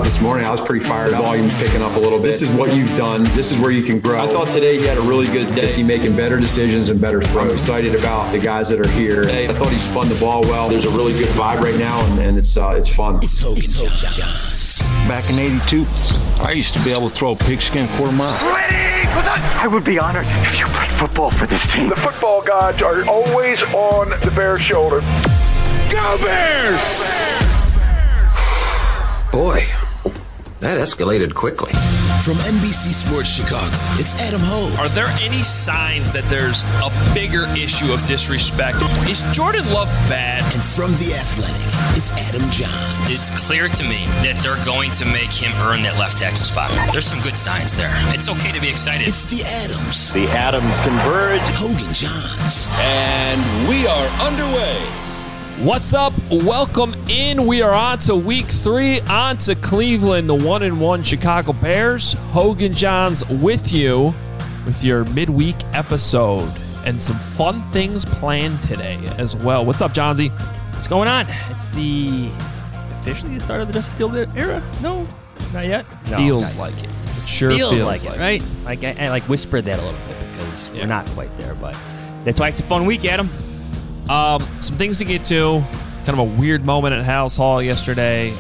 this morning. I was pretty fired up. Volume's picking up a little bit. This is what you've done. This is where you can grow. I thought today he had a really good day. He's making better decisions and better throws. I'm excited about the guys that are here. I thought he spun the ball well. There's a really good vibe right now, and it's fun. It's Hogan Johns. Back in '82, I used to be able to throw a pigskin quarter mile. I would be honored if you played football for this team. The football gods are always on the Bears' shoulder. Go Bears! Boy, that escalated quickly. From NBC Sports Chicago, it's Adam Hogue. Are there any signs that there's a bigger issue of disrespect? Is Jordan Love bad? And from The Athletic, it's Adam Johns. It's clear to me that they're going to make him earn that left tackle spot. There's some good signs there. It's okay to be excited. It's the Adams. The Adams converge. Hogan Johns. And we are underway. What's up? Welcome in. We are on to week 3, on to Cleveland, the 1-1 Chicago Bears. Hogan Johns with you with your midweek episode and some fun things planned today as well. What's up, Johnsy? What's going on? It's officially the start of the Justin Fields era? No, not yet. No, feels like it. It sure feels like it, right? Like I whispered that a little bit because we're not quite there, but that's why it's a fun week, Adam. Some things to get to. Kind of a weird moment at Halas Hall yesterday.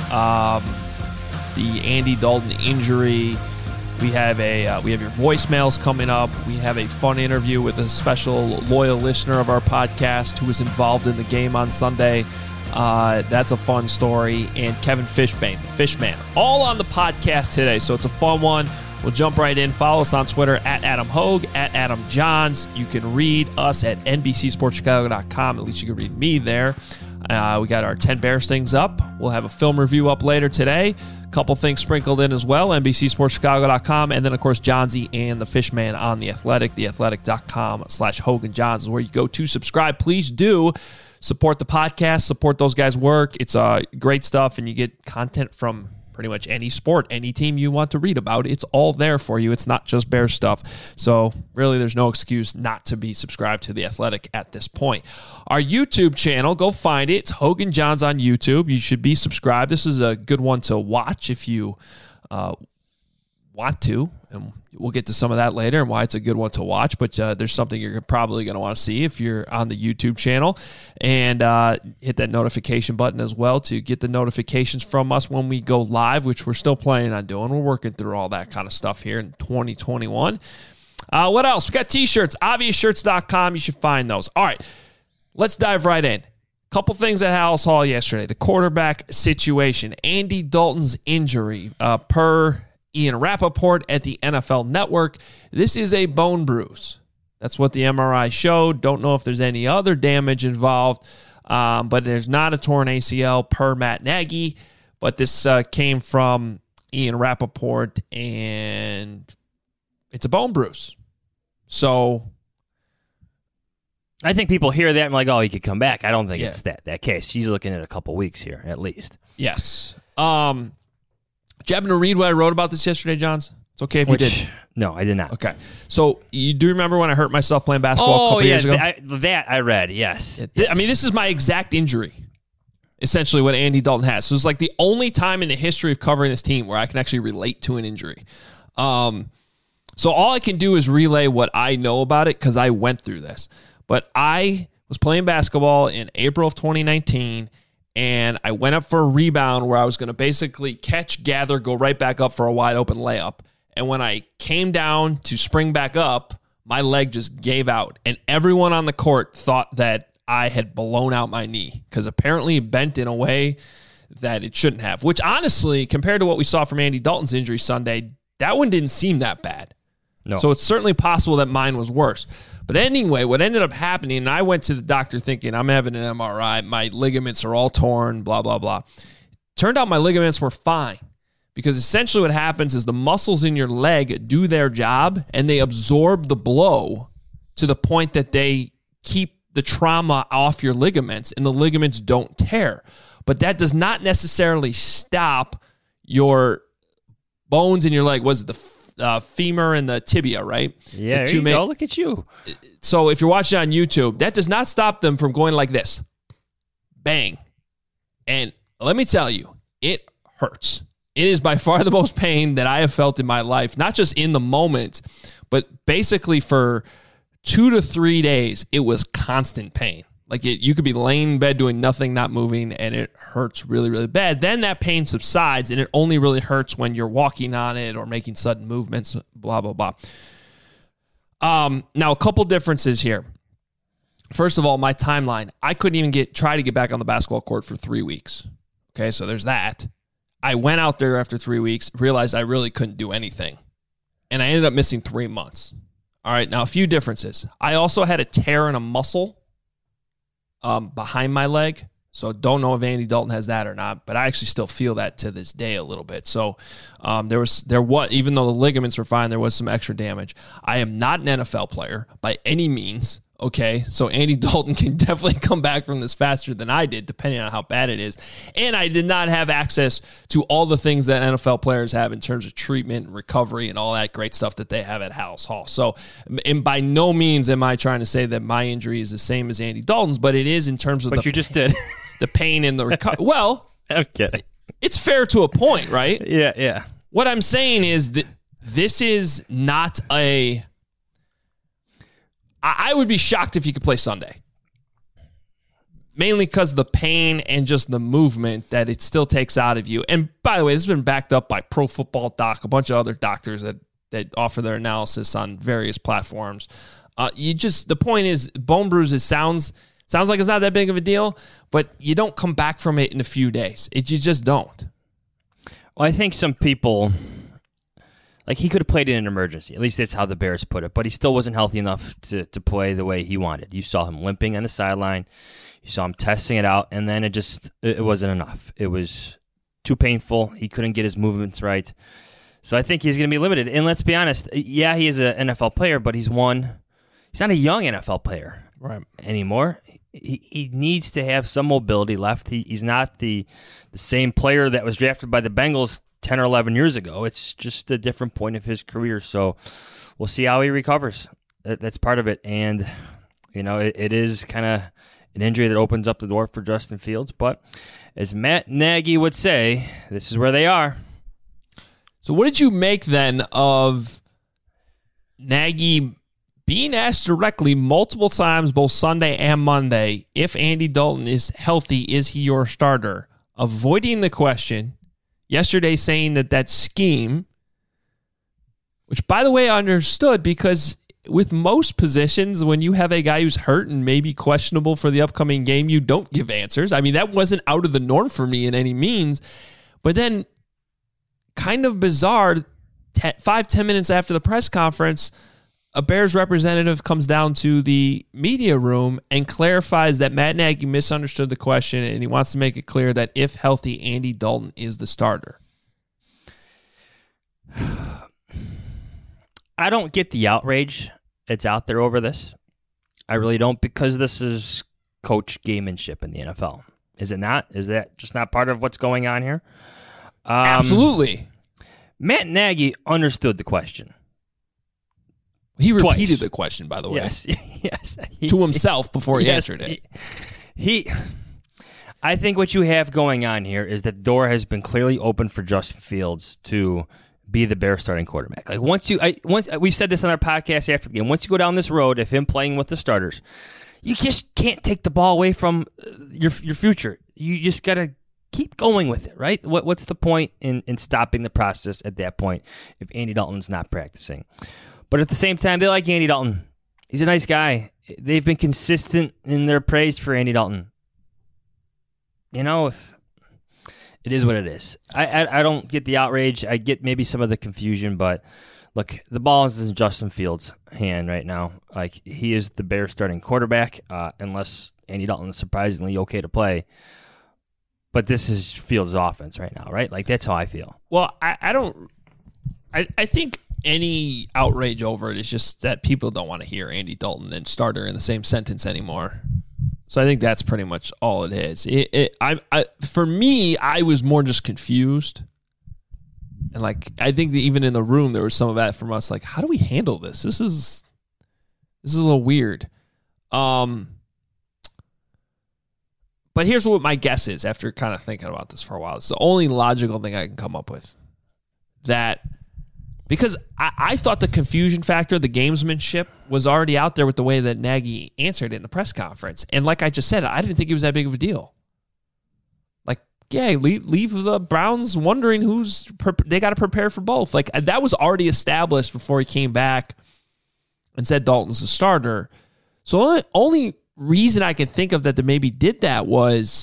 The Andy Dalton injury. We have your voicemails coming up. We have a fun interview with a special loyal listener of our podcast who was involved in the game on Sunday. That's a fun story. And Kevin Fishman, all on the podcast today. So it's a fun one. We'll jump right in. Follow us on Twitter at Adam Hogue, at Adam Johns. You can read us at NBCSportsChicago.com. At least you can read me there. We got our 10 Bears things up. We'll have a film review up later today. A couple things sprinkled in as well. NBCSportsChicago.com. And then, of course, Johnsy and the Fishman on The Athletic. TheAthletic.com/Hogan Johns is where you go to subscribe. Please do support the podcast. Support those guys' work. It's great stuff, and you get content from pretty much any sport, any team you want to read about. It's all there for you. It's not just Bears stuff. So really, there's no excuse not to be subscribed to The Athletic at this point. Our YouTube channel, go find it. It's Hogan Johns on YouTube. You should be subscribed. This is a good one to watch if you want to, and we'll get to some of that later and why it's a good one to watch, but there's something you're probably going to want to see if you're on the YouTube channel, and hit that notification button as well to get the notifications from us when we go live, which we're still planning on doing. We're working through all that kind of stuff here in 2021. What else? We got t-shirts, obviousshirts.com. You should find those. All right, let's dive right in. Couple things at Halas Hall yesterday. The quarterback situation, Andy Dalton's injury, per Ian Rappaport at the NFL Network. This is a bone bruise. That's what the MRI showed. Don't know if there's any other damage involved, but there's not a torn ACL per Matt Nagy. But this came from Ian Rappaport, and it's a bone bruise. So I think people hear that and like, oh, he could come back. I don't think it's that case. He's looking at a couple weeks here, at least. Yes. Did you happen to read what I wrote about this yesterday, Johns? It's okay if you did. No, I did not. Okay. So you do remember when I hurt myself playing basketball a couple years ago? That I read, yes. I mean, this is my exact injury, essentially what Andy Dalton has. So it's like the only time in the history of covering this team where I can actually relate to an injury. So all I can do is relay what I know about it because I went through this. But I was playing basketball in April of 2019, and I went up for a rebound where I was going to basically catch, gather, go right back up for a wide open layup. And when I came down to spring back up, my leg just gave out. And everyone on the court thought that I had blown out my knee because apparently it bent in a way that it shouldn't have. Which honestly, compared to what we saw from Andy Dalton's injury Sunday, that one didn't seem that bad. No. So it's certainly possible that mine was worse. But anyway, what ended up happening, and I went to the doctor thinking, I'm having an MRI, my ligaments are all torn, blah, blah, blah. Turned out my ligaments were fine because essentially what happens is the muscles in your leg do their job and they absorb the blow to the point that they keep the trauma off your ligaments and the ligaments don't tear. But that does not necessarily stop your bones in your leg. Was it the femur and the tibia, right? Yeah, there you go. Look at you. So if you're watching on YouTube, that does not stop them from going like this. Bang. And let me tell you, it hurts. It is by far the most pain that I have felt in my life, not just in the moment, but basically for 2 to 3 days, it was constant pain. Like you could be laying in bed doing nothing, not moving, and it hurts really, really bad. Then that pain subsides, and it only really hurts when you're walking on it or making sudden movements, blah, blah, blah. Now, a couple differences here. First of all, my timeline. I couldn't even try to get back on the basketball court for 3 weeks. Okay, so there's that. I went out there after 3 weeks, realized I really couldn't do anything, and I ended up missing 3 months. All right, now a few differences. I also had a tear in a muscle behind my leg, so don't know if Andy Dalton has that or not, but I actually still feel that to this day a little bit. So there was even though the ligaments were fine, there was some extra damage. I am not an NFL player by any means. Okay, so Andy Dalton can definitely come back from this faster than I did, depending on how bad it is. And I did not have access to all the things that NFL players have in terms of treatment and recovery and all that great stuff that they have at House Hall. So, and by no means am I trying to say that my injury is the same as Andy Dalton's, but it is in terms of you just did. The pain and the recovery. Well, I'm kidding. It's fair to a point, right? Yeah. What I'm saying is that this is not a... I would be shocked if you could play Sunday. Mainly because of the pain and just the movement that it still takes out of you. And by the way, this has been backed up by Pro Football Doc, a bunch of other doctors that offer their analysis on various platforms. The point is, bone bruises sounds like it's not that big of a deal, but you don't come back from it in a few days. You just don't. Well, I think some people... Like, he could have played in an emergency. At least that's how the Bears put it. But he still wasn't healthy enough to play the way he wanted. You saw him limping on the sideline. You saw him testing it out. And then it wasn't enough. It was too painful. He couldn't get his movements right. So I think he's going to be limited. And let's be honest. Yeah, he is an NFL player, but he's not a young NFL player anymore. He needs to have some mobility left. He's not the same player that was drafted by the Bengals 10 or 11 years ago. It's just a different point of his career. So we'll see how he recovers. That's part of it. And, it is kind of an injury that opens up the door for Justin Fields. But as Matt Nagy would say, this is where they are. So what did you make then of Nagy being asked directly multiple times, both Sunday and Monday, if Andy Dalton is healthy, is he your starter? Avoiding the question. Yesterday saying that scheme, which, by the way, I understood because with most positions, when you have a guy who's hurt and maybe questionable for the upcoming game, you don't give answers. I mean, that wasn't out of the norm for me in any means. But then kind of bizarre, 5-10 minutes after the press conference, a Bears representative comes down to the media room and clarifies that Matt Nagy misunderstood the question and he wants to make it clear that if healthy, Andy Dalton is the starter. I don't get the outrage that's out there over this. I really don't, because this is coach gamemanship in the NFL. Is it not? Is that just not part of what's going on here? Absolutely. Matt Nagy understood the question. He repeated the question, by the way. Yes. To himself before he answered it. I think what you have going on here is that the door has been clearly opened for Justin Fields to be the Bears starting quarterback. Like once we said this on our podcast after the game. Once you go down this road of him playing with the starters, you just can't take the ball away from your future. You just got to keep going with it, right? What's the point in stopping the process at that point if Andy Dalton's not practicing? But at the same time, they like Andy Dalton. He's a nice guy. They've been consistent in their praise for Andy Dalton. It is what it is. I don't get the outrage. I get maybe some of the confusion, but look, the ball is in Justin Fields' hand right now. Like, he is the Bears starting quarterback, unless Andy Dalton is surprisingly okay to play. But this is Fields' offense right now, right? Like, that's how I feel. Well, I think any outrage over it is just that people don't want to hear Andy Dalton and starter in the same sentence anymore. So I think that's pretty much all it is. For me, I was more just confused. And I think that even in the room, there was some of that from us. Like, how do we handle this? This is a little weird. But But here's what my guess is after kind of thinking about this for a while. It's the only logical thing I can come up with. That because I thought the confusion factor, the gamesmanship, was already out there with the way that Nagy answered it in the press conference. And like I just said, I didn't think it was that big of a deal. Like, yeah, leave the Browns wondering they got to prepare for both. Like, that was already established before he came back and said Dalton's the starter. So only reason I can think of that they maybe did that was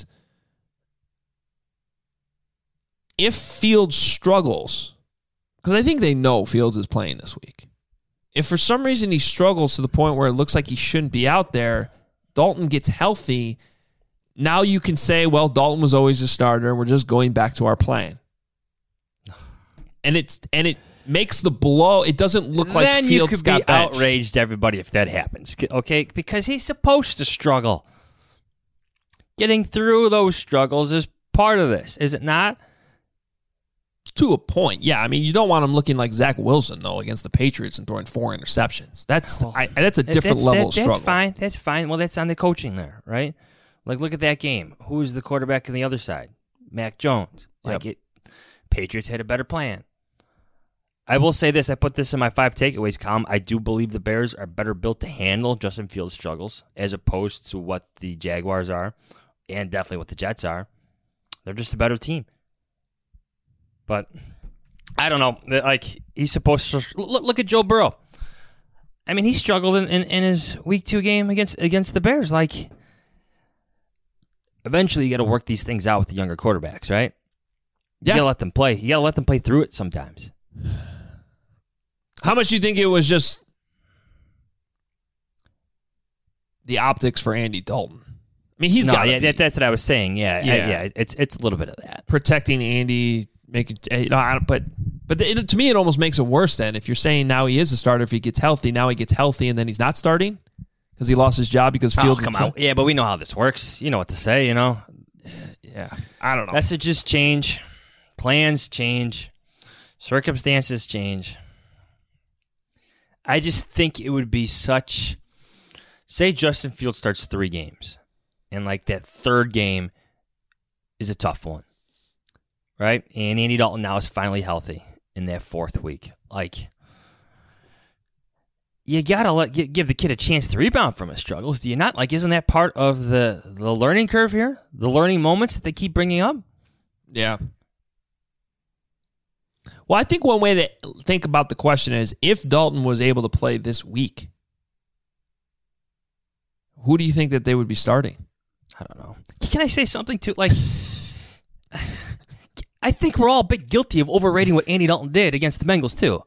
if Fields struggles, because I think they know Fields is playing this week. If for some reason he struggles to the point where it looks like he shouldn't be out there, Dalton gets healthy, now you can say, well, Dalton was always a starter, we're just going back to our plan. And it makes the blow, it doesn't look like then Fields got benched. Then you could be outraged, everybody, if that happens, okay? Because he's supposed to struggle. Getting through those struggles is part of this, is it not? To a point, yeah. I mean, you don't want him looking like Zach Wilson, though, against the Patriots and throwing 4 interceptions. That's a different level of struggle. That's fine. That's fine. Well, that's on the coaching there, right? Like, look at that game. Who's the quarterback on the other side? Mac Jones. Patriots had a better plan. I will say this. I put this in my 5 takeaways column. I do believe the Bears are better built to handle Justin Fields' struggles as opposed to what the Jaguars are and definitely what the Jets are. They're just a better team. But I don't know. Like, he's supposed to look at Joe Burrow. I mean, he struggled in his week 2 game against the Bears. Like, eventually you got to work these things out with the younger quarterbacks, right? You got to let them play. You got to let them play through it sometimes. How much do you think it was just the optics for Andy Dalton? I mean, he's got that's what I was saying. Yeah. It's a little bit of that. Protecting Andy, to me, it almost makes it worse then. If you're saying now he is a starter, if he gets healthy, now he gets healthy, and then he's not starting because he lost his job because Fields come out. Yeah, but we know how this works. You know what to say, you know? Yeah, I don't know. Messages change. Plans change. Circumstances change. I just think it would be such... Say Justin Fields starts 3 games, and like that 3rd game is a tough one, right? And Andy Dalton now is finally healthy in that 4th week. Like, you gotta give the kid a chance to rebound from his struggles. Do you not? Like, isn't that part of the learning curve here? The learning moments that they keep bringing up? Yeah. Well, I think one way to think about the question is, if Dalton was able to play this week, who do you think that they would be starting? I don't know. Can I say something too? Like, I think we're all a bit guilty of overrating what Andy Dalton did against the Bengals too.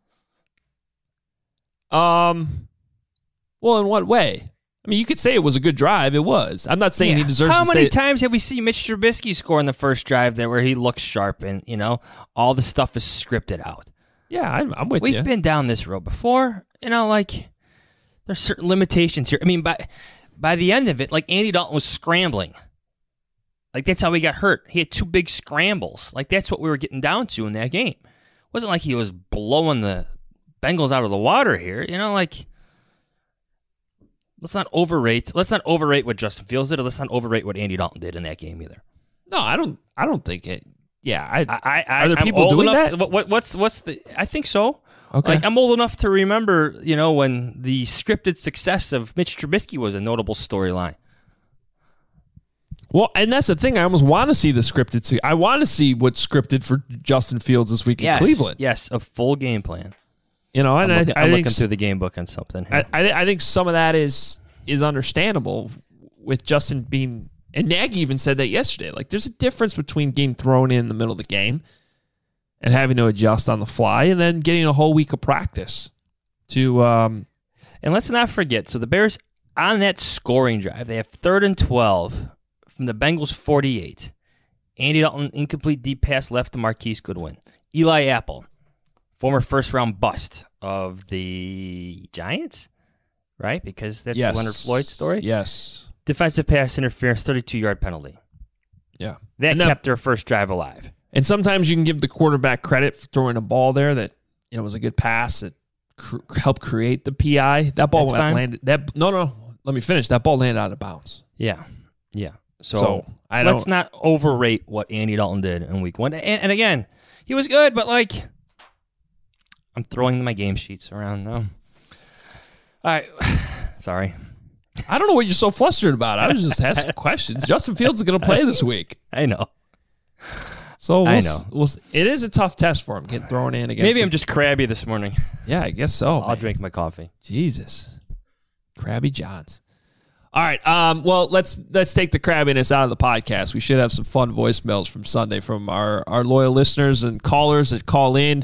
Well, in what way? I mean, you could say it was a good drive. It was. I'm not saying he deserves How to many times have we seen Mitch Trubisky score in the first drive there where he looks sharp and, all the stuff is scripted out? Yeah, I'm with you. We've been down this road before. Like, there's certain limitations here. I mean, by the end of it, like, Andy Dalton was scrambling. Like, that's how he got hurt. He had 2 big scrambles. Like, that's what we were getting down to in that game. It wasn't like he was blowing the Bengals out of the water here. Like... Let's not overrate what Justin Fields did, or let's not overrate what Andy Dalton did in that game either. No, I don't think it. Yeah, are there people doing that? What's the? I think so. Okay, like, I'm old enough to remember, when the scripted success of Mitch Trubisky was a notable storyline. Well, and that's the thing. I almost want to see the scripted. I want to see what's scripted for Justin Fields this week in Cleveland. Yes, a full game plan. And I'm looking through the game book on something here. I think some of that is understandable with Justin being, and Nagy even said that yesterday. Like, there's a difference between getting thrown in the middle of the game and having to adjust on the fly, and then getting a whole week of practice to. And let's not forget. So the Bears on that scoring drive, they have 3rd and 12 from the Bengals 48. Andy Dalton incomplete deep pass left to Marquise Goodwin. Eli Apple. Former first-round bust of the Giants, right? Because that's the Leonard Floyd story. Yes. Defensive pass interference, 32-yard penalty. Yeah. That kept their first drive alive. And sometimes you can give the quarterback credit for throwing a ball there that was a good pass that helped create the PI. That ball landed. No. Let me finish. That ball landed out of bounds. Yeah. So let's not overrate what Andy Dalton did in week 1. And again, he was good, but like, I'm throwing my game sheets around now. All right. Sorry. I don't know what you're so flustered about. I was just asking questions. Justin Fields is going to play this week. I know. So it is a tough test for him getting thrown in against. Maybe I'm just crabby this morning. Yeah, I guess so. I'll drink my coffee. Jesus, Crabby Johns. All right. Well, let's take the crabbiness out of the podcast. We should have some fun voicemails from Sunday from our loyal listeners and callers that call in.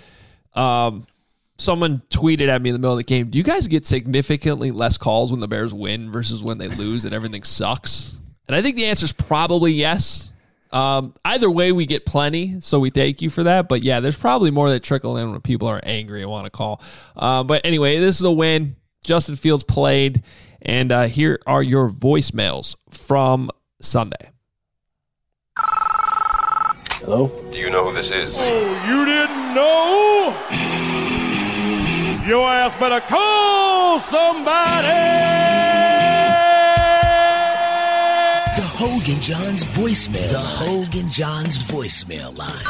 Someone tweeted at me in the middle of the game, do you guys get significantly less calls when the Bears win versus when they lose and everything sucks? And I think the answer is probably yes. Either way, we get plenty, so we thank you for that. But yeah, there's probably more that trickle in when people are angry and want to call. But anyway, this is a win. Justin Fields played, and here are your voicemails from Sunday. Hello? Do you know who this is? Oh, you didn't know? Your ass better call somebody! The Hogan Johns voicemail. The Hogan Johns voicemail line.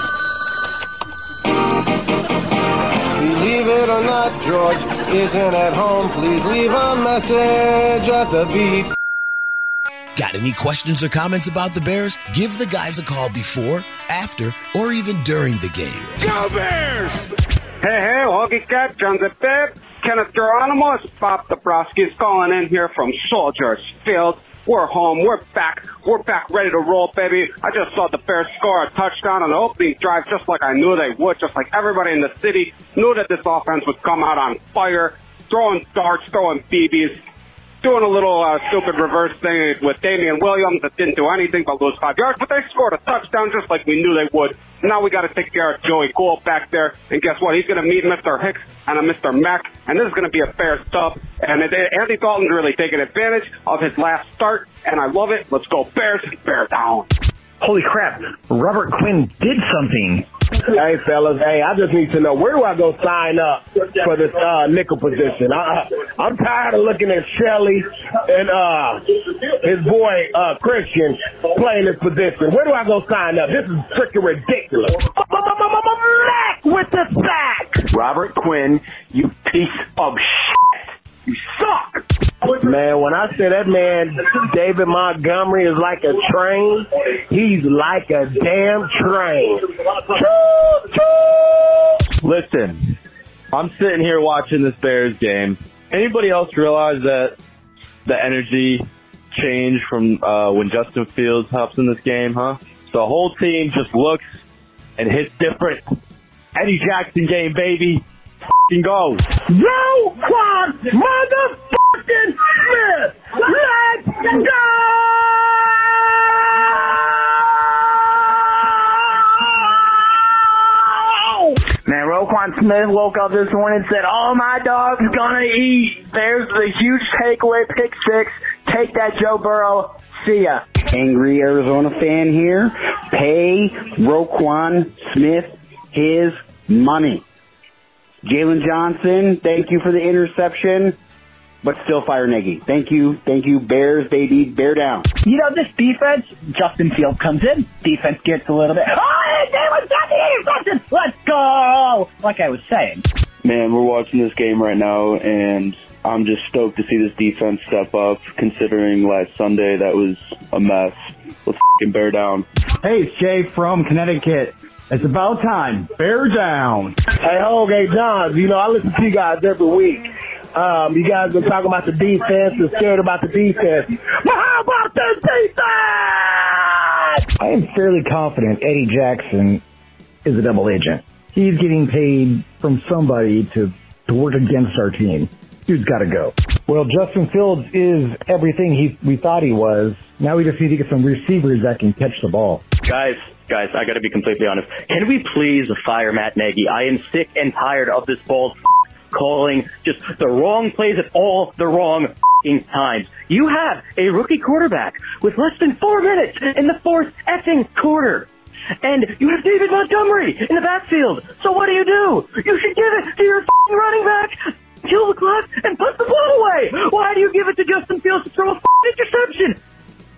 Believe it or not, George isn't at home. Please leave a message at the beep. Got any questions or comments about the Bears? Give the guys a call before, after, or even during the game. Go Bears! Hey, Hoagie Cat, John the Pep, Kenneth Geronimo, Bob Dabrowski's calling in here from Soldiers Field. We're home. We're back. We're back ready to roll, baby. I just saw the Bears score a touchdown on the opening drive just like I knew they would, just like everybody in the city knew that this offense would come out on fire, throwing darts, throwing BBs, doing a little stupid reverse thing with Damian Williams that didn't do anything but lose 5 yards, but they scored a touchdown just like we knew they would. Now we got to take care of Joey Gould back there, and guess what? He's going to meet Mr. Hicks and a Mr. Mack, and this is going to be a Bears dub. And Andy Dalton's really taking advantage of his last start, and I love it. Let's go Bears, bear down. Holy crap, Robert Quinn did something. Hey, fellas, I just need to know, where do I go sign up for this nickel position? I'm tired of looking at Shelley and his boy Christian playing this position. Where do I go sign up? This is freaking ridiculous. Mac with the sack! Robert Quinn, you piece of shit. You suck! Man, when I say that man, David Montgomery, is like a train, he's like a damn train. Listen, I'm sitting here watching this Bears game. Anybody else realize that the energy changed from when Justin Fields hops in this game, huh? The whole team just looks and hits different. Eddie Jackson game, baby. F***ing go. Roquan motherfucking Smith! Let's go! Man, Roquan Smith woke up this morning and said, "Oh, my dog's gonna eat." There's the huge takeaway, pick 6. Take that, Joe Burrow. See ya. Angry Arizona fan here. Pay Roquan Smith his money. Jalen Johnson, thank you for the interception, but still fire Nagy. Thank you, Bears, baby, bear down. You know, this defense, Justin Fields comes in, defense gets a little bit, let's go! Like I was saying. Man, we're watching this game right now, and I'm just stoked to see this defense step up, considering last Sunday that was a mess. Let's f***ing bear down. Hey, it's Jay from Connecticut. It's about time. Bear down. Hey, Hogan Johns, you know, I listen to you guys every week. You guys been talking about the defense and scared about the defense. But how about the defense? I am fairly confident Eddie Jackson is a double agent. He's getting paid from somebody to work against our team. Dude's got to go. Well, Justin Fields is everything we thought he was. Now we just need to get some receivers that can catch the ball. Guys, I got to be completely honest. Can we please fire Matt Nagy? I am sick and tired of this bald calling just the wrong plays at all the wrong times. You have a rookie quarterback with less than 4 minutes in the fourth effing quarter. And you have David Montgomery in the backfield. So what do? You should give it to your running back, kill the clock, and put the ball away. Why do you give it to Justin Fields to throw a interception?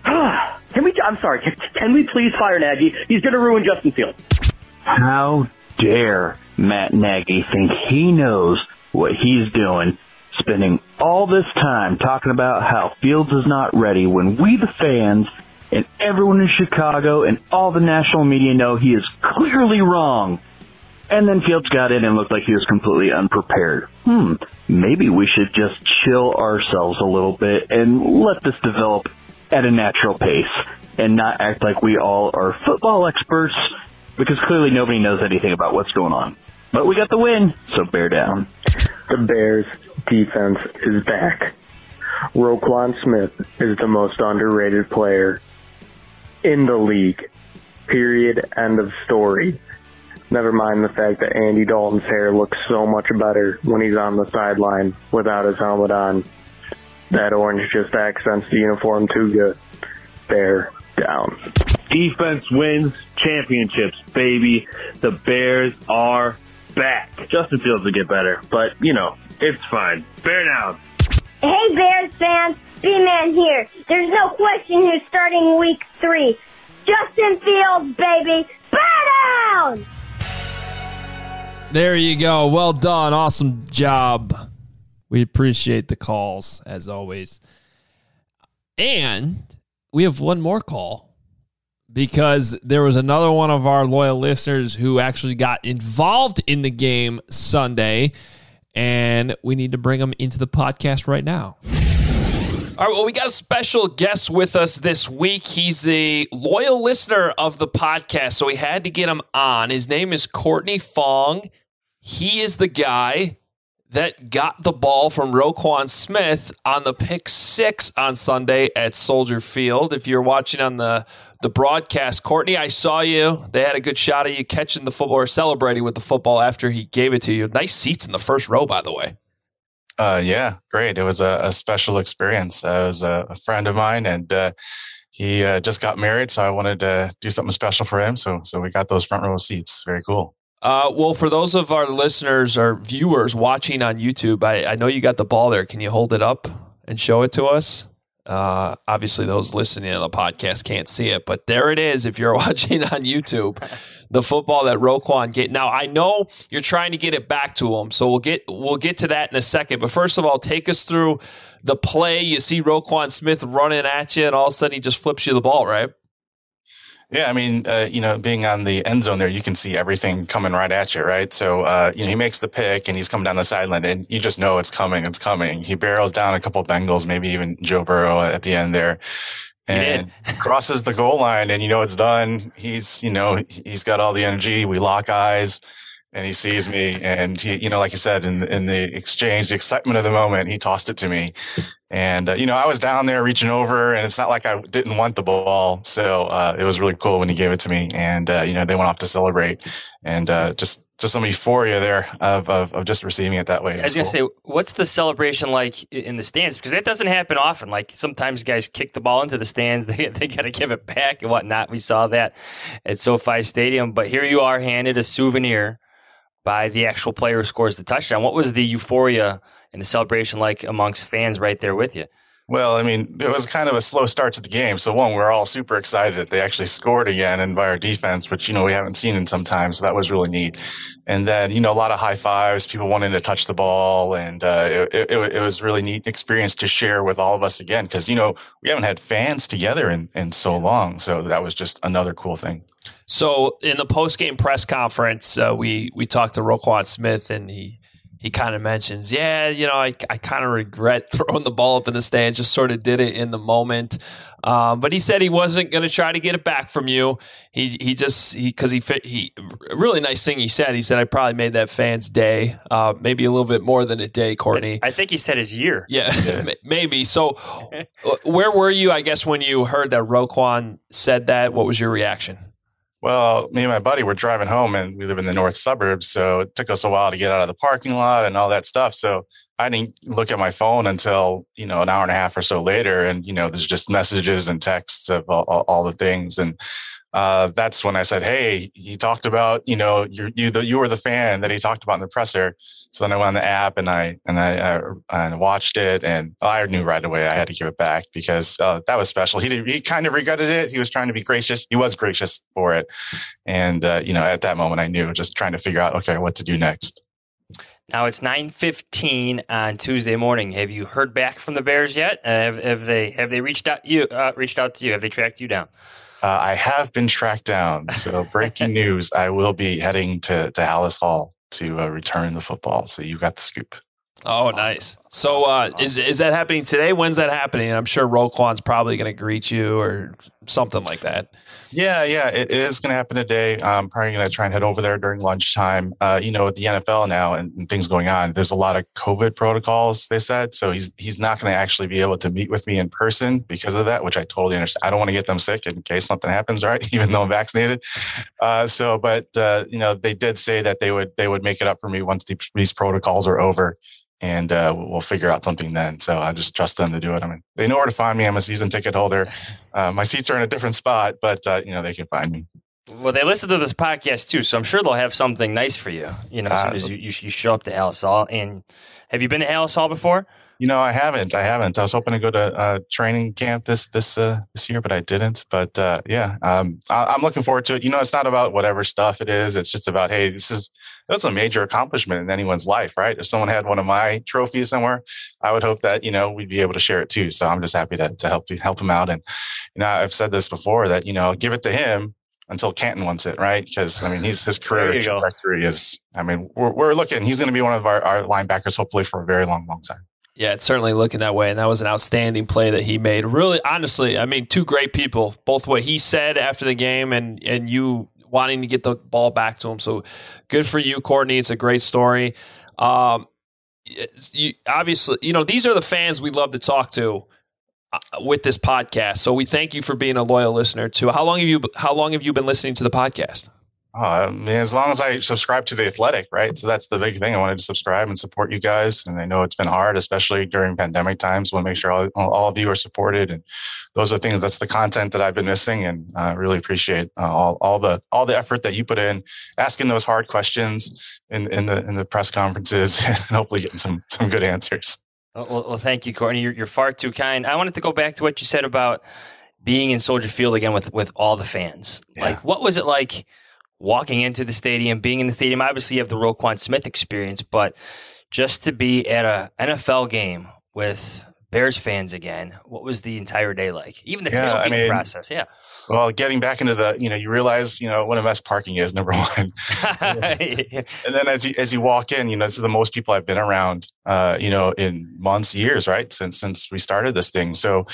I'm sorry. Can we please fire Nagy? He's going to ruin Justin Fields. How dare Matt Nagy think he knows what he's doing, spending all this time talking about how Fields is not ready when we, the fans, and everyone in Chicago and all the national media know he is clearly wrong. And then Fields got in and looked like he was completely unprepared. Maybe we should just chill ourselves a little bit and let this develop at a natural pace and not act like we all are football experts, because clearly nobody knows anything about what's going on. But we got the win, so bear down. The Bears' defense is back. Roquan Smith is the most underrated player in the league. Period. End of story. Never mind the fact that Andy Dalton's hair looks so much better when he's on the sideline without his helmet on. That orange just accents the uniform too good. Bear down. Defense wins championships, baby. The Bears are back. Justin Fields will get better, but, it's fine. Bear down. Hey, Bears fans. B-Man here. There's no question who's starting week 3. Justin Fields, baby. Bear down! There you go. Well done. Awesome job. We appreciate the calls, as always. And we have one more call, because there was another one of our loyal listeners who actually got involved in the game Sunday, and we need to bring him into the podcast right now. All right, well, we got a special guest with us this week. He's a loyal listener of the podcast, so we had to get him on. His name is Courtney Fong. He is the guy that got the ball from Roquan Smith on the pick 6 on Sunday at Soldier Field. If you're watching on the broadcast, Courtney, I saw you. They had a good shot of you catching the football or celebrating with the football after he gave it to you. Nice seats in the first row, by the way. Yeah, great. It was a special experience. It was a friend of mine, and he just got married, so I wanted to do something special for him. So we got those front row seats. Very cool. Well, for those of our listeners or viewers watching on YouTube, I know you got the ball there. Can you hold it up and show it to us? Obviously, those listening to the podcast can't see it, but there it is. If you're watching on YouTube, the football that Roquan get. Now, I know you're trying to get it back to him, so we'll get to that in a second. But first of all, take us through the play. You see Roquan Smith running at you, and all of a sudden he just flips you the ball, right? Yeah, I mean, being on the end zone there, you can see everything coming right at you, right? So, he makes the pick and he's coming down the sideline, and you just know it's coming. He barrels down a couple of Bengals, maybe even Joe Burrow at the end there, and crosses the goal line, and it's done. He's got all the energy. We lock eyes, and he sees me, and he, like you said, in the exchange, the excitement of the moment, he tossed it to me. And, I was down there reaching over, and it's not like I didn't want the ball. So it was really cool when he gave it to me. And, they went off to celebrate, and just some euphoria there of just receiving it that way. I was going to say, what's the celebration like in the stands? Because that doesn't happen often. Like, sometimes guys kick the ball into the stands. They got to give it back and whatnot. We saw that at SoFi Stadium. But here you are handed a souvenir by the actual player who scores the touchdown. What was the euphoria and the celebration like amongst fans right there with you? Well, I mean, it was kind of a slow start to the game. So one, we're all super excited that they actually scored again, and by our defense, which, we haven't seen in some time. So that was really neat. And then, a lot of high fives, people wanting to touch the ball. And it was really neat experience to share with all of us again, because, we haven't had fans together in so long. So that was just another cool thing. So in the post-game press conference, we talked to Roquan Smith, and he kind of mentions, I kind of regret throwing the ball up in the stand, just sort of did it in the moment. But he said he wasn't going to try to get it back from you. He really nice thing he said, I probably made that fan's day, maybe a little bit more than a day, Courtney. I think he said his year. Yeah. Maybe. So where were you, I guess, when you heard that Roquan said that? What was your reaction? Well, me and my buddy were driving home, and we live in the north suburbs, so it took us a while to get out of the parking lot and all that stuff. So I didn't look at my phone until, an hour and a half or so later, and, there's just messages and texts of all the things. And that's when I said, hey, he talked about, you were the fan that he talked about in the presser. So then I went on the app and I watched it, and I knew right away I had to give it back because that was special. He kind of regretted it. He was trying to be gracious. He was gracious for it. And, at that moment I knew, just trying to figure out, okay, what to do next. Now it's 9:15 on Tuesday morning. Have you heard back from the Bears yet? Have they reached out to you? Have they tracked you down? I have been tracked down. So breaking news, I will be heading to Halas Hall to return the football. So you got the scoop. Oh, nice. So is that happening today? When's that happening? I'm sure Roquan's probably going to greet you or something like that. Yeah, it is going to happen today. I'm probably going to try and head over there during lunchtime. With the NFL now and things going on, there's a lot of COVID protocols, they said. So he's not going to actually be able to meet with me in person because of that, which I totally understand. I don't want to get them sick in case something happens, right? Even though I'm vaccinated. They did say that they would make it up for me once these protocols are over. And we'll figure out something then. So I just trust them to do it. I mean, they know where to find me. I'm a season ticket holder. My seats are in a different spot, but they can find me. Well, they listen to this podcast too, so I'm sure they'll have something nice for you. As soon as you show up to Halas Hall. And have you been to Halas Hall before? I haven't. I was hoping to go to training camp this year, but I didn't. But I'm looking forward to it. It's not about whatever stuff it is. It's just about, hey, that's a major accomplishment in anyone's life, right? If someone had one of my trophies somewhere, I would hope that we'd be able to share it too. So I'm just happy to help him out. And I've said this before that give it to him until Canton wants it, right? Because his career trajectory is. We're looking. He's going to be one of our linebackers, hopefully for a very long time. Yeah, it's certainly looking that way. And that was an outstanding play that he made. Really, honestly, two great people, both what he said after the game and you wanting to get the ball back to him. So good for you, Courtney. It's a great story. Obviously, these are the fans we love to talk to with this podcast. So we thank you for being a loyal listener too. How long have you been listening to the podcast? As long as I subscribe to The Athletic, right? So that's the big thing. I wanted to subscribe and support you guys. And I know it's been hard, especially during pandemic times. I want to make sure all of you are supported. And those are things, that's the content that I've been missing. And I really appreciate all the effort that you put in, asking those hard questions in the press conferences and hopefully getting some good answers. Well, thank you, Courtney. You're far too kind. I wanted to go back to what you said about being in Soldier Field again with all the fans. Yeah. Like, what was it like walking into the stadium, being in the stadium? Obviously, you have the Roquan Smith experience, but just to be at a NFL game with Bears fans again, what was the entire day like? Even the tailgate process, yeah. Well, getting back into you realize, what a mess parking is, number one. And then as you walk in, this is the most people I've been around, in months, years, right? Since we started this thing. So,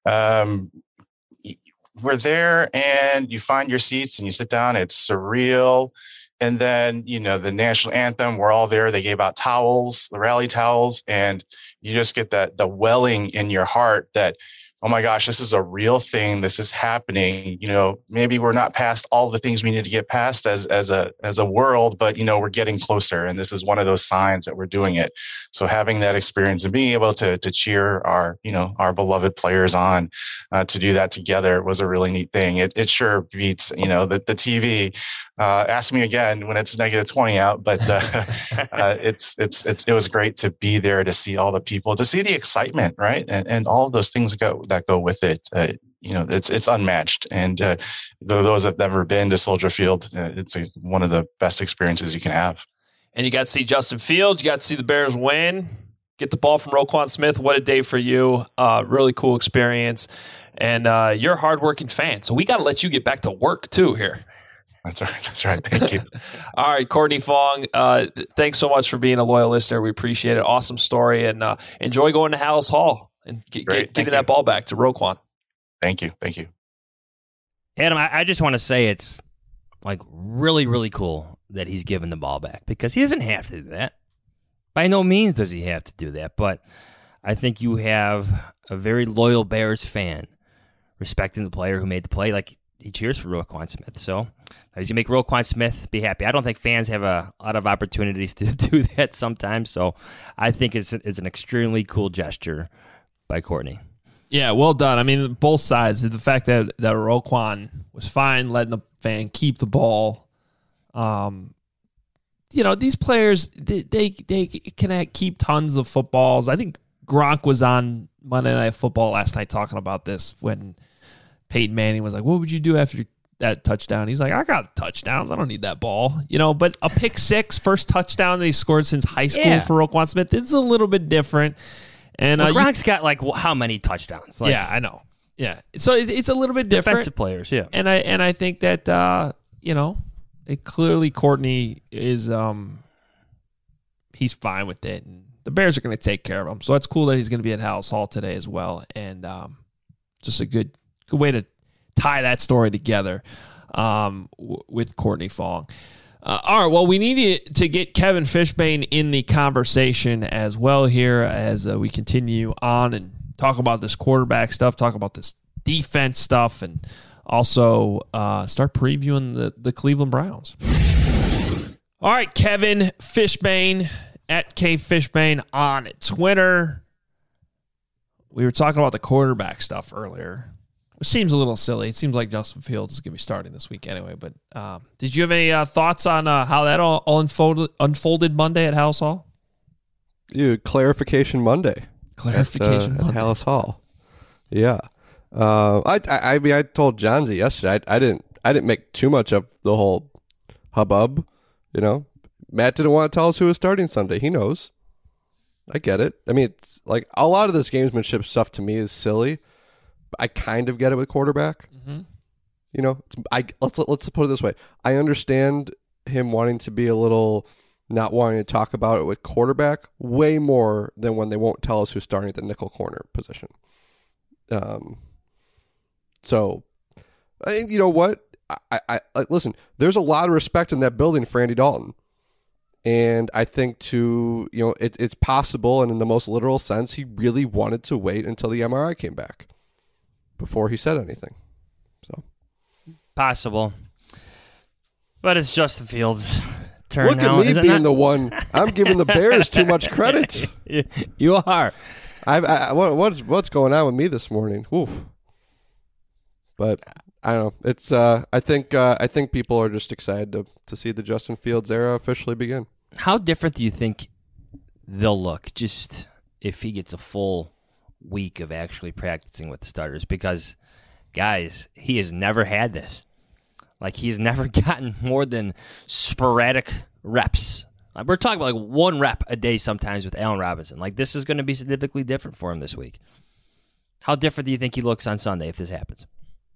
we're there and you find your seats and you sit down. It's surreal. And then, the national anthem, we're all there. They gave out towels, the rally towels, and you just get the welling in your heart that, oh my gosh, this is a real thing. This is happening. Maybe we're not past all the things we need to get past as a world, but we're getting closer. And this is one of those signs that we're doing it. So having that experience and being able to cheer our beloved players on to do that together was a really neat thing. It sure beats, the TV. Ask me again when it's -20 out, but it was great to be there, to see all the people, to see the excitement, right? And all of those things that go with it. It's unmatched. And those that have never been to Soldier Field, it's one of the best experiences you can have. And you got to see Justin Fields. You got to see the Bears win. Get the ball from Roquan Smith. What a day for you. Really cool experience. And you're a hardworking fan. So we got to let you get back to work too here. That's right. Thank you. All right, Courtney Fong, thanks so much for being a loyal listener. We appreciate it. Awesome story. And enjoy going to Halas Hall and getting that ball back to Roquan. Thank you. Adam, I just want to say it's like really, really cool that he's given the ball back, because he doesn't have to do that. By no means does he have to do that, but I think you have a very loyal Bears fan respecting the player who made the play. Like, he cheers for Roquan Smith. So as you make Roquan Smith be happy, I don't think fans have a lot of opportunities to do that sometimes. So I think it's an extremely cool gesture by Courtney. Yeah, well done. I mean, both sides. The fact that Roquan was fine letting the fan keep the ball. These players, they can keep tons of footballs. I think Gronk was on Monday Night Football last night talking about this when Peyton Manning was like, what would you do after that touchdown? He's like, I got touchdowns. I don't need that ball. But a pick six, first touchdown that he scored since high school for Roquan Smith, is a little bit different. And Gronk's got how many touchdowns? Yeah, I know. Yeah. So it's a little bit different. Defensive players, yeah. And I think that, clearly Courtney is he's fine with it. And the Bears are going to take care of him. So it's cool that he's going to be at Halas Hall today as well. And just a good way to tie that story together with Courtney Fong. All right, well, we need to get Kevin Fishbain in the conversation as well here as we continue on and talk about this quarterback stuff, talk about this defense stuff, and also start previewing the Cleveland Browns. All right, Kevin Fishbain at KFishbain on Twitter. We were talking about the quarterback stuff earlier. It seems a little silly. It seems like Justin Fields is going to be starting this week anyway. But did you have any thoughts on how that all unfolded Monday at Halas Hall? Clarification Monday. Clarification Monday at Halas Hall. Yeah. I told Johnsy yesterday. I didn't make too much of the whole hubbub. Matt didn't want to tell us who was starting Sunday. He knows. I get it. I mean, it's like a lot of this gamesmanship stuff to me is silly. I kind of get it with quarterback. Mm-hmm. Let's put it this way. I understand him wanting to be a little not wanting to talk about it with quarterback way more than when they won't tell us who's starting at the nickel corner position. So, you know what? I listen. There's a lot of respect in that building for Andy Dalton, and I think it's possible, and in the most literal sense, he really wanted to wait until the MRI came back before he said anything. So possible, but it's Justin Fields' turn. Look now, at me being the one. I'm giving the Bears too much credit. You are. What's going on with me this morning? Oof. But I don't know. It's I think people are just excited to see the Justin Fields era officially begin. How different do you think they'll look just if he gets a full week of actually practicing with the starters? Because, guys, he has never had this. Like, he's never gotten more than sporadic reps. We're talking about like one rep a day sometimes with Allen Robinson. Like, this is going to be significantly different for him this week. How different do you think he looks on Sunday if this happens?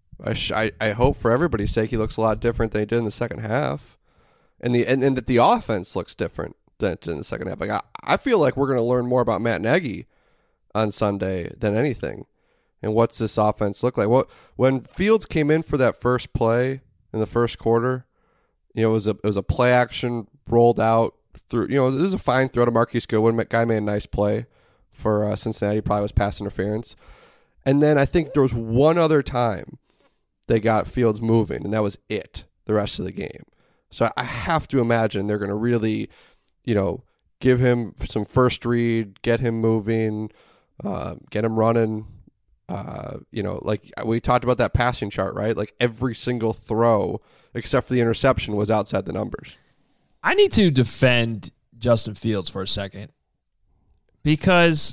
I hope for everybody's sake he looks a lot different than he did in the second half. And that the offense looks different than in the second half. Like, I feel like we're going to learn more about Matt Nagy on Sunday than anything. And what's this offense look like? When Fields came in for that first play in the first quarter, it was a play action rolled out through. It was a fine throw to Marquise Goodwin. Guy made a nice play for Cincinnati. Probably was pass interference. And then I think there was one other time they got Fields moving, and that was it the rest of the game. So I have to imagine they're going to really, give him some first read, get him moving, get him running. Like we talked about that passing chart, right? Like every single throw except for the interception was outside the numbers. I need to defend Justin Fields for a second because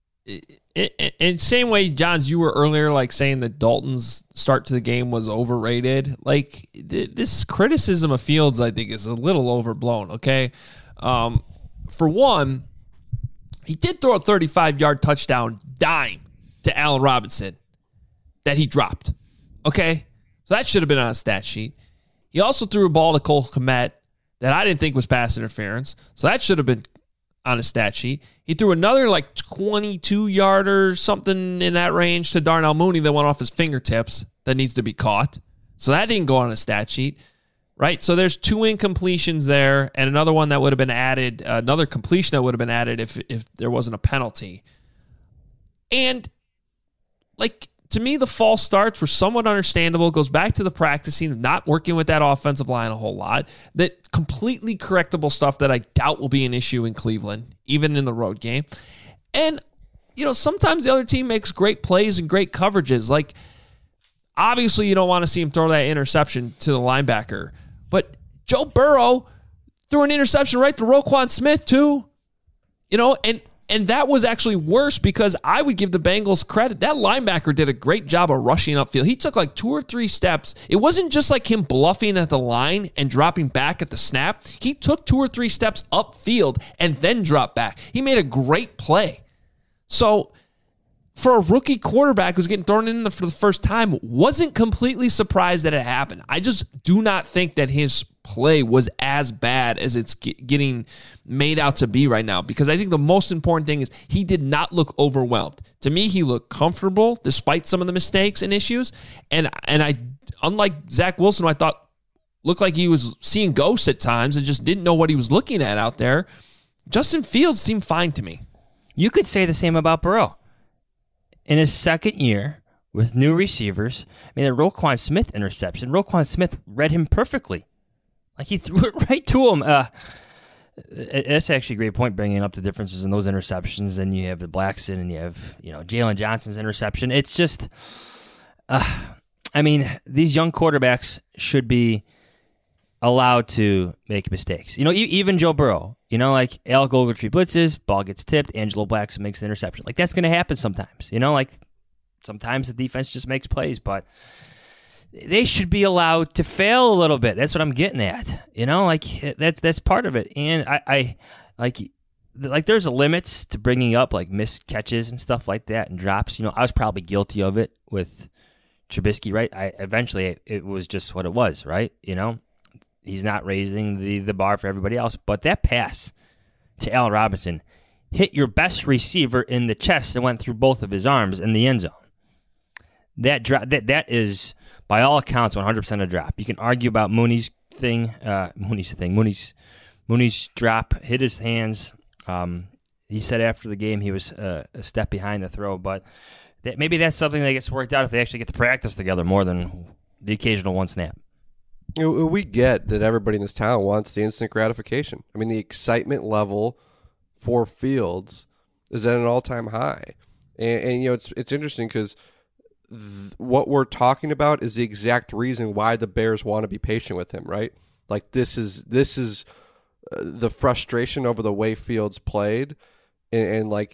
in same way, Johns, you were earlier like saying that Dalton's start to the game was overrated. Like this criticism of Fields, I think, is a little overblown. Okay, for one, he did throw a 35-yard touchdown dime to Allen Robinson that he dropped. Okay, so that should have been on a stat sheet. He also threw a ball to Cole Kmet that I didn't think was pass interference, so that should have been on a stat sheet. He threw another like 22-yarder, something in that range, to Darnell Mooney that went off his fingertips that needs to be caught. So that didn't go on a stat sheet, right? So there's two incompletions there and another one that would have been added, another completion that would have been added if there wasn't a penalty. And like, to me, the false starts were somewhat understandable. It goes back to the practicing, not working with that offensive line a whole lot. That completely correctable stuff that I doubt will be an issue in Cleveland, even in the road game. And sometimes the other team makes great plays and great coverages. Like, obviously you don't want to see him throw that interception to the linebacker, but Joe Burrow threw an interception right to Roquan Smith too. And that was actually worse because I would give the Bengals credit. That linebacker did a great job of rushing upfield. He took like 2 or 3 steps. It wasn't just like him bluffing at the line and dropping back at the snap. He took 2 or 3 steps upfield and then dropped back. He made a great play. So for a rookie quarterback who's getting thrown in for the first time, wasn't completely surprised that it happened. I just do not think that his play was as bad as it's getting made out to be right now, because I think the most important thing is he did not look overwhelmed. To me, he looked comfortable despite some of the mistakes and issues. And I, unlike Zach Wilson, who I thought looked like he was seeing ghosts at times and just didn't know what he was looking at out there, Justin Fields seemed fine to me. You could say the same about Burrow. In his second year with new receivers, the Roquan Smith interception, Roquan Smith read him perfectly. Like, he threw it right to him. That's actually a great point, bringing up the differences in those interceptions. And you have the Blackson and you have, Jalen Johnson's interception. It's just, these young quarterbacks should be allowed to make mistakes. Even Joe Burrow, like Alec Ogletree blitzes, ball gets tipped, Angelo Blackson makes an interception. Like, that's going to happen sometimes. Sometimes the defense just makes plays, but they should be allowed to fail a little bit. That's what I'm getting at. That's part of it. And I there's a limit to bringing up like missed catches and stuff like that and drops. I was probably guilty of it with Trubisky, right? Eventually it was just what it was, right? He's not raising the bar for everybody else. But that pass to Allen Robinson hit your best receiver in the chest and went through both of his arms in the end zone. That is, by all accounts, 100% a drop. You can argue about Mooney's drop hit his hands. He said after the game he was a step behind the throw, but maybe that's something that gets worked out if they actually get to practice together more than the occasional one snap. We get that everybody in this town wants the instant gratification. The excitement level for Fields is at an all-time high. And it's interesting because what we're talking about is the exact reason why the Bears want to be patient with him, right? Like, this is the frustration over the way Fields played. And I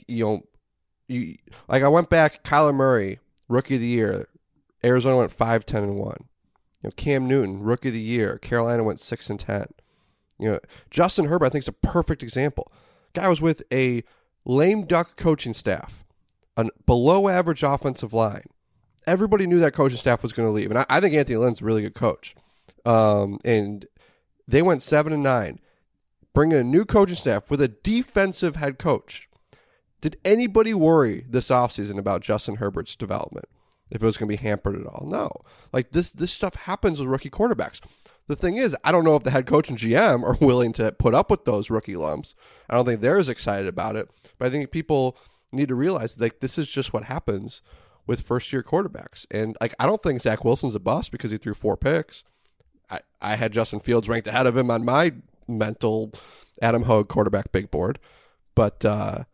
went back, Kyler Murray, Rookie of the Year, Arizona went 5-10-1. Cam Newton, Rookie of the Year, Carolina went 6-10. Justin Herbert, I think, is a perfect example. Guy was with a lame duck coaching staff, a below average offensive line. Everybody knew that coaching staff was going to leave. And I think Anthony Lynn's a really good coach. And they went 7-9, bringing a new coaching staff with a defensive head coach. Did anybody worry this offseason about Justin Herbert's development? If it was going to be hampered at all? No. Like, this stuff happens with rookie quarterbacks. The thing is, I don't know if the head coach and GM are willing to put up with those rookie lumps. I don't think they're as excited about it. But I think people need to realize, like, this is just what happens with first-year quarterbacks. And, like, I don't think Zach Wilson's a bust because he threw 4 picks. I had Justin Fields ranked ahead of him on my mental Adam Hogue quarterback big board. But,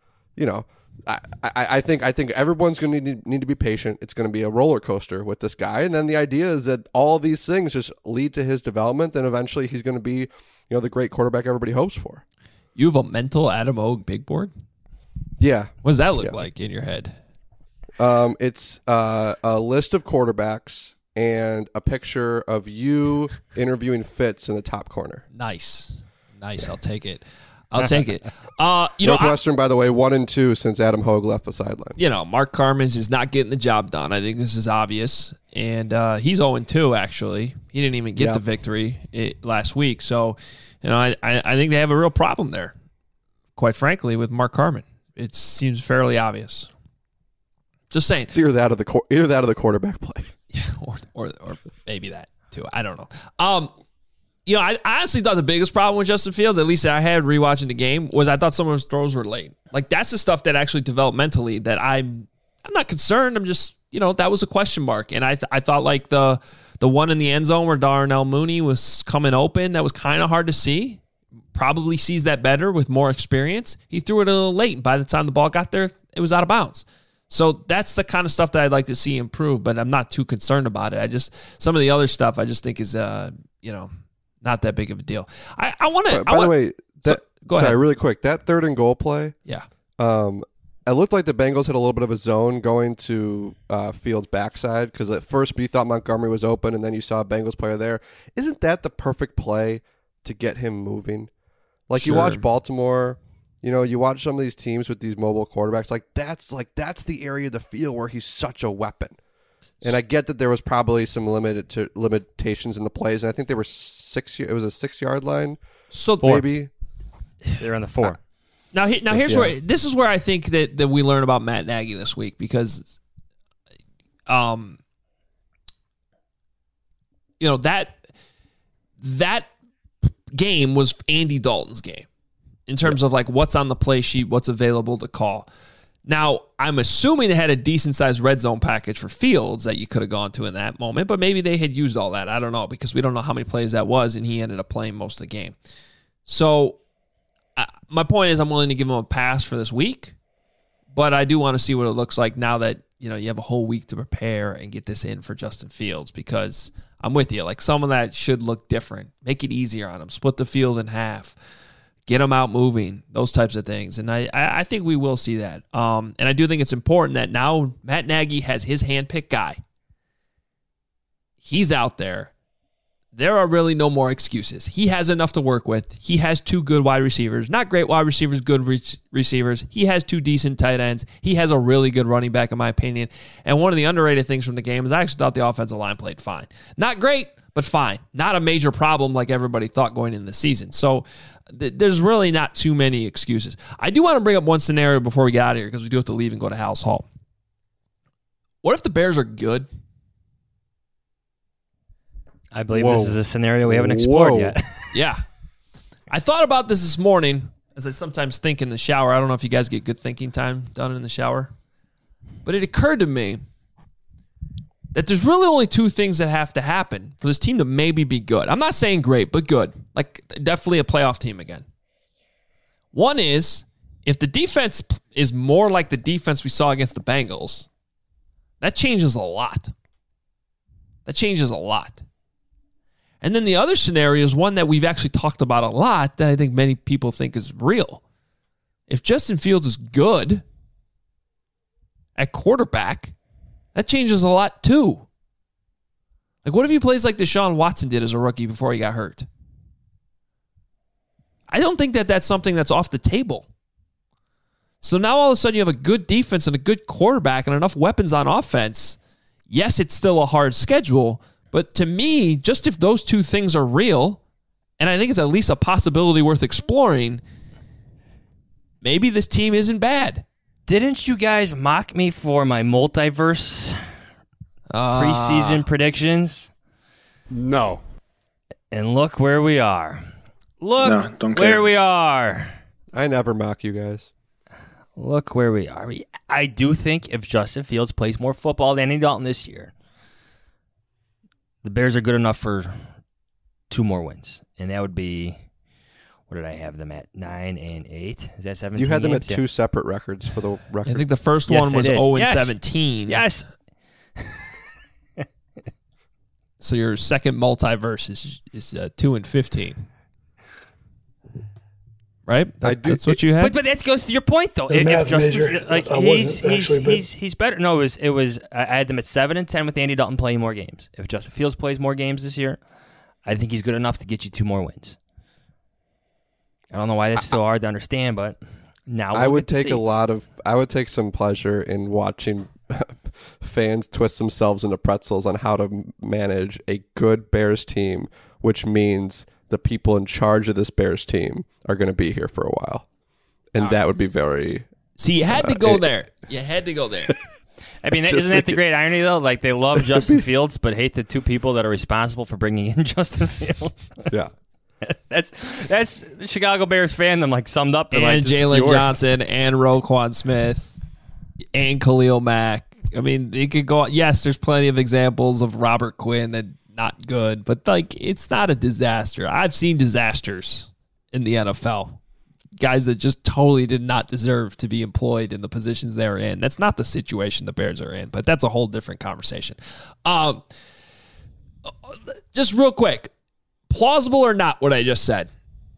I think everyone's going to need to be patient. It's going to be a roller coaster with this guy. And then the idea is that all these things just lead to his development. And eventually he's going to be, the great quarterback everybody hopes for. You have a mental Adam Hogue big board? Yeah. What does that look like in your head? It's a list of quarterbacks and a picture of you interviewing Fitz in the top corner. Nice. I'll take it. Northwestern, by the way, 1-2 since Adam Hogue left the sideline. Mark Carmans is not getting the job done. I think this is obvious. And he's 0-2, actually. He didn't even get the victory last week. So, I think they have a real problem there, quite frankly, with Mark Carman. It seems fairly obvious. Just saying. It's either that or the quarterback play. Yeah, or maybe that, too. I don't know. I honestly thought the biggest problem with Justin Fields, at least I had rewatching the game, was I thought some of his throws were late. Like, that's the stuff that actually developed mentally that I'm not concerned. I'm just, that was a question mark. And I thought like the one in the end zone where Darnell Mooney was coming open, that was kind of hard to see. Probably sees that better with more experience. He threw it a little late. By the time the ball got there, it was out of bounds. So that's the kind of stuff that I'd like to see improve, but I'm not too concerned about it. Some of the other stuff I just think is, not that big of a deal. I want to. By the way, go ahead. Sorry, really quick. That 3rd and goal play. Yeah. It looked like the Bengals had a little bit of a zone going to Fields' backside because at first you thought Montgomery was open and then you saw a Bengals player there. Isn't that the perfect play to get him moving? Like you watch Baltimore, you watch some of these teams with these mobile quarterbacks. That's the area of the field where he's such a weapon. And I get that there was probably some limitations in the plays, and I think they were 6. It was a 6-yard line. So maybe they're on the 4. Now here's where this is where I think that we learn about Matt Nagy this week because, that game was Andy Dalton's game in terms of like what's on the play sheet, what's available to call. Now I'm assuming they had a decent sized red zone package for Fields that you could have gone to in that moment, but maybe they had used all that. I don't know because we don't know how many plays that was, and he ended up playing most of the game. So. My point is I'm willing to give him a pass for this week, but I do want to see what it looks like now that, you have a whole week to prepare and get this in for Justin Fields because I'm with you. Like some of that should look different. Make it easier on him. Split the field in half. Get him out moving. Those types of things. And I think we will see that. And I do think it's important that now Matt Nagy has his handpicked guy. He's out there. There are really no more excuses. He has enough to work with. He has 2 good wide receivers. Not great wide receivers, good receivers. He has 2 decent tight ends. He has a really good running back, in my opinion. And one of the underrated things from the game is I actually thought the offensive line played fine. Not great, but fine. Not a major problem like everybody thought going into the season. So there's really not too many excuses. I do want to bring up one scenario before we get out of here because we do have to leave and go to House Hall. What if the Bears are good? I believe this is a scenario we haven't explored yet. Yeah. I thought about this morning, as I sometimes think in the shower. I don't know if you guys get good thinking time done in the shower. But it occurred to me that there's really only 2 things that have to happen for this team to maybe be good. I'm not saying great, but good. Like, definitely a playoff team again. One is, if the defense is more like the defense we saw against the Bengals, that changes a lot. And then the other scenario is one that we've actually talked about a lot that I think many people think is real. If Justin Fields is good at quarterback, that changes a lot too. Like, what if he plays like Deshaun Watson did as a rookie before he got hurt? I don't think that that's something that's off the table. So now all of a sudden you have a good defense and a good quarterback and enough weapons on offense. Yes, it's still a hard schedule, but to me, just if those 2 things are real, and I think it's at least a possibility worth exploring, maybe this team isn't bad. Didn't you guys mock me for my multiverse preseason predictions? No. And look where we are. Look where we are. I never mock you guys. Look where we are. I do think if Justin Fields plays more football than Andy Dalton this year, the Bears are good enough for 2 more wins. And that would be, what did I have them at? 9-8? Is that 17? You had them games? at 2 separate records for the record. I think the first one was 0-17. Yes. So your second multiverse is 2-15. Right? That's what you had. But that goes to your point, though. If Justin, like he's better. No, it was. I had them at 7-10 with Andy Dalton playing more games. If Justin Fields plays more games this year, I think he's good enough to get you 2 more wins. I don't know why that's so hard to understand, but now I would take I would take some pleasure in watching fans twist themselves into pretzels on how to manage a good Bears team, which means the people in charge of this Bears team are going to be here for a while. And that would be very... See, you had to go there. You had to go there. I mean, isn't that the great irony, though? Like, they love Justin Fields, but hate the 2 people that are responsible for bringing in Justin Fields. Yeah. That's the Chicago Bears fandom, like, summed up. And like, Jalen Johnson and Roquan Smith and Khalil Mack. I mean, it could go... Yes, there's plenty of examples of Robert Quinn that not good, but, like, it's not a disaster. I've seen disasters in the NFL. guys that just totally did not deserve to be employed in the positions they were in. That's not the situation the Bears are in, but that's a whole different conversation. Just real quick, plausible or not what I just said?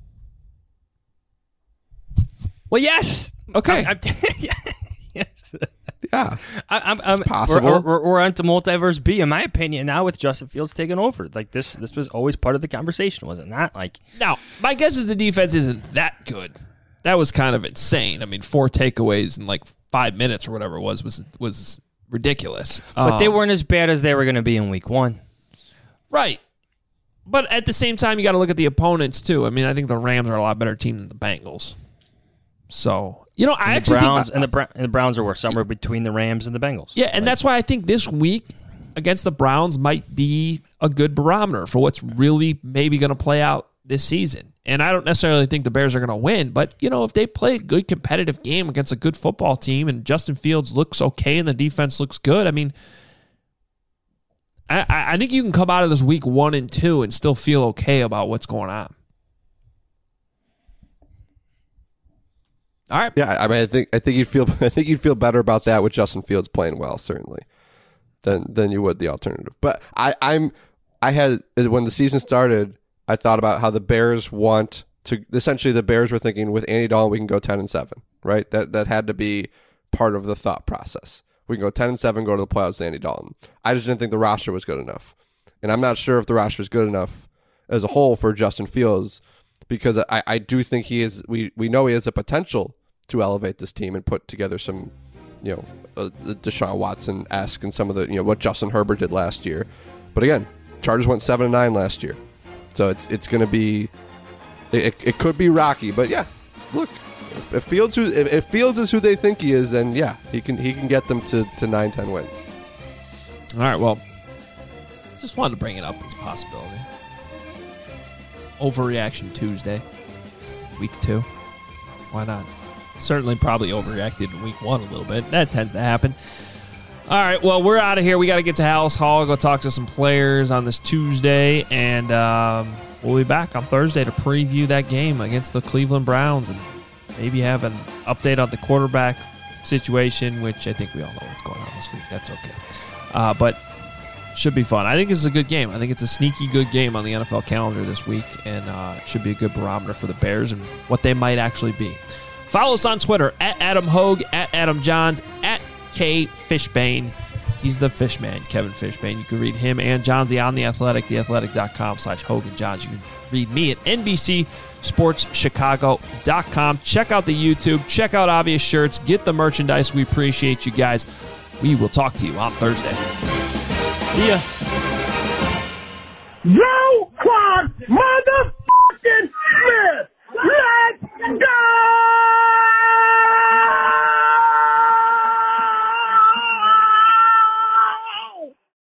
Well, yes. Okay. Yes. Yeah. I'm possible. We're on to multiverse B, in my opinion, now with Justin Fields taking over. Like this was always part of the conversation, was it not? Like, now, my guess is the defense isn't that good. That was kind of insane. I mean, 4 takeaways in like 5 minutes or whatever it was ridiculous. But they weren't as bad as they were going to be in week 1. Right. But at the same time, you got to look at the opponents too. I mean, I think the Rams are a lot better team than the Bengals. So, I actually think the Browns are somewhere between the Rams and the Bengals. Yeah, and that's why I think this week against the Browns might be a good barometer for what's really maybe going to play out this season. And I don't necessarily think the Bears are going to win, but if they play a good competitive game against a good football team and Justin Fields looks okay and the defense looks good, I mean, I think you can come out of this week 1 and 2 and still feel okay about what's going on. All right. Yeah, I mean, I think you'd feel better about that with Justin Fields playing well, certainly, than you would the alternative. But I had, when the season started, I thought about how the Bears want to. Essentially, the Bears were thinking with Andy Dalton we can go 10-7, right? That had to be part of the thought process. We can go 10-7, go to the playoffs with Andy Dalton. I just didn't think the roster was good enough, and I'm not sure if the roster is good enough as a whole for Justin Fields, because I do think he is. We know he has the potential to elevate this team and put together some, Deshaun Watson-esque and some of the, what Justin Herbert did last year. But again, Chargers went 7-9 last year, so it's going to be, it could be rocky. But yeah, look, if Fields is who they think he is, then yeah, he can get them to 9-10 wins. All right, well, just wanted to bring it up as a possibility. Overreaction Tuesday, week 2. Why not? Certainly probably overreacted in week 1 a little bit. That tends to happen. All right, well, we're out of here. We got to get to Hallis Hall, go talk to some players on this Tuesday, and we'll be back on Thursday to preview that game against the Cleveland Browns and maybe have an update on the quarterback situation, which I think we all know what's going on this week. That's okay. But should be fun. I think this is a good game. I think it's a sneaky good game on the NFL calendar this week, and it should be a good barometer for the Bears and what they might actually be. Follow us on Twitter, @Adam Hogue, @Adam Johns, @KFishbane. He's the Fishman, Kevin Fishbane. You can read him and Johnsy on The Athletic, theathletic.com/Hogue and Johns. You can read me at NBCSportsChicago.com. Check out the YouTube. Check out Obvious Shirts. Get the merchandise. We appreciate you guys. We will talk to you on Thursday. See ya. Roquan motherfucking Smith!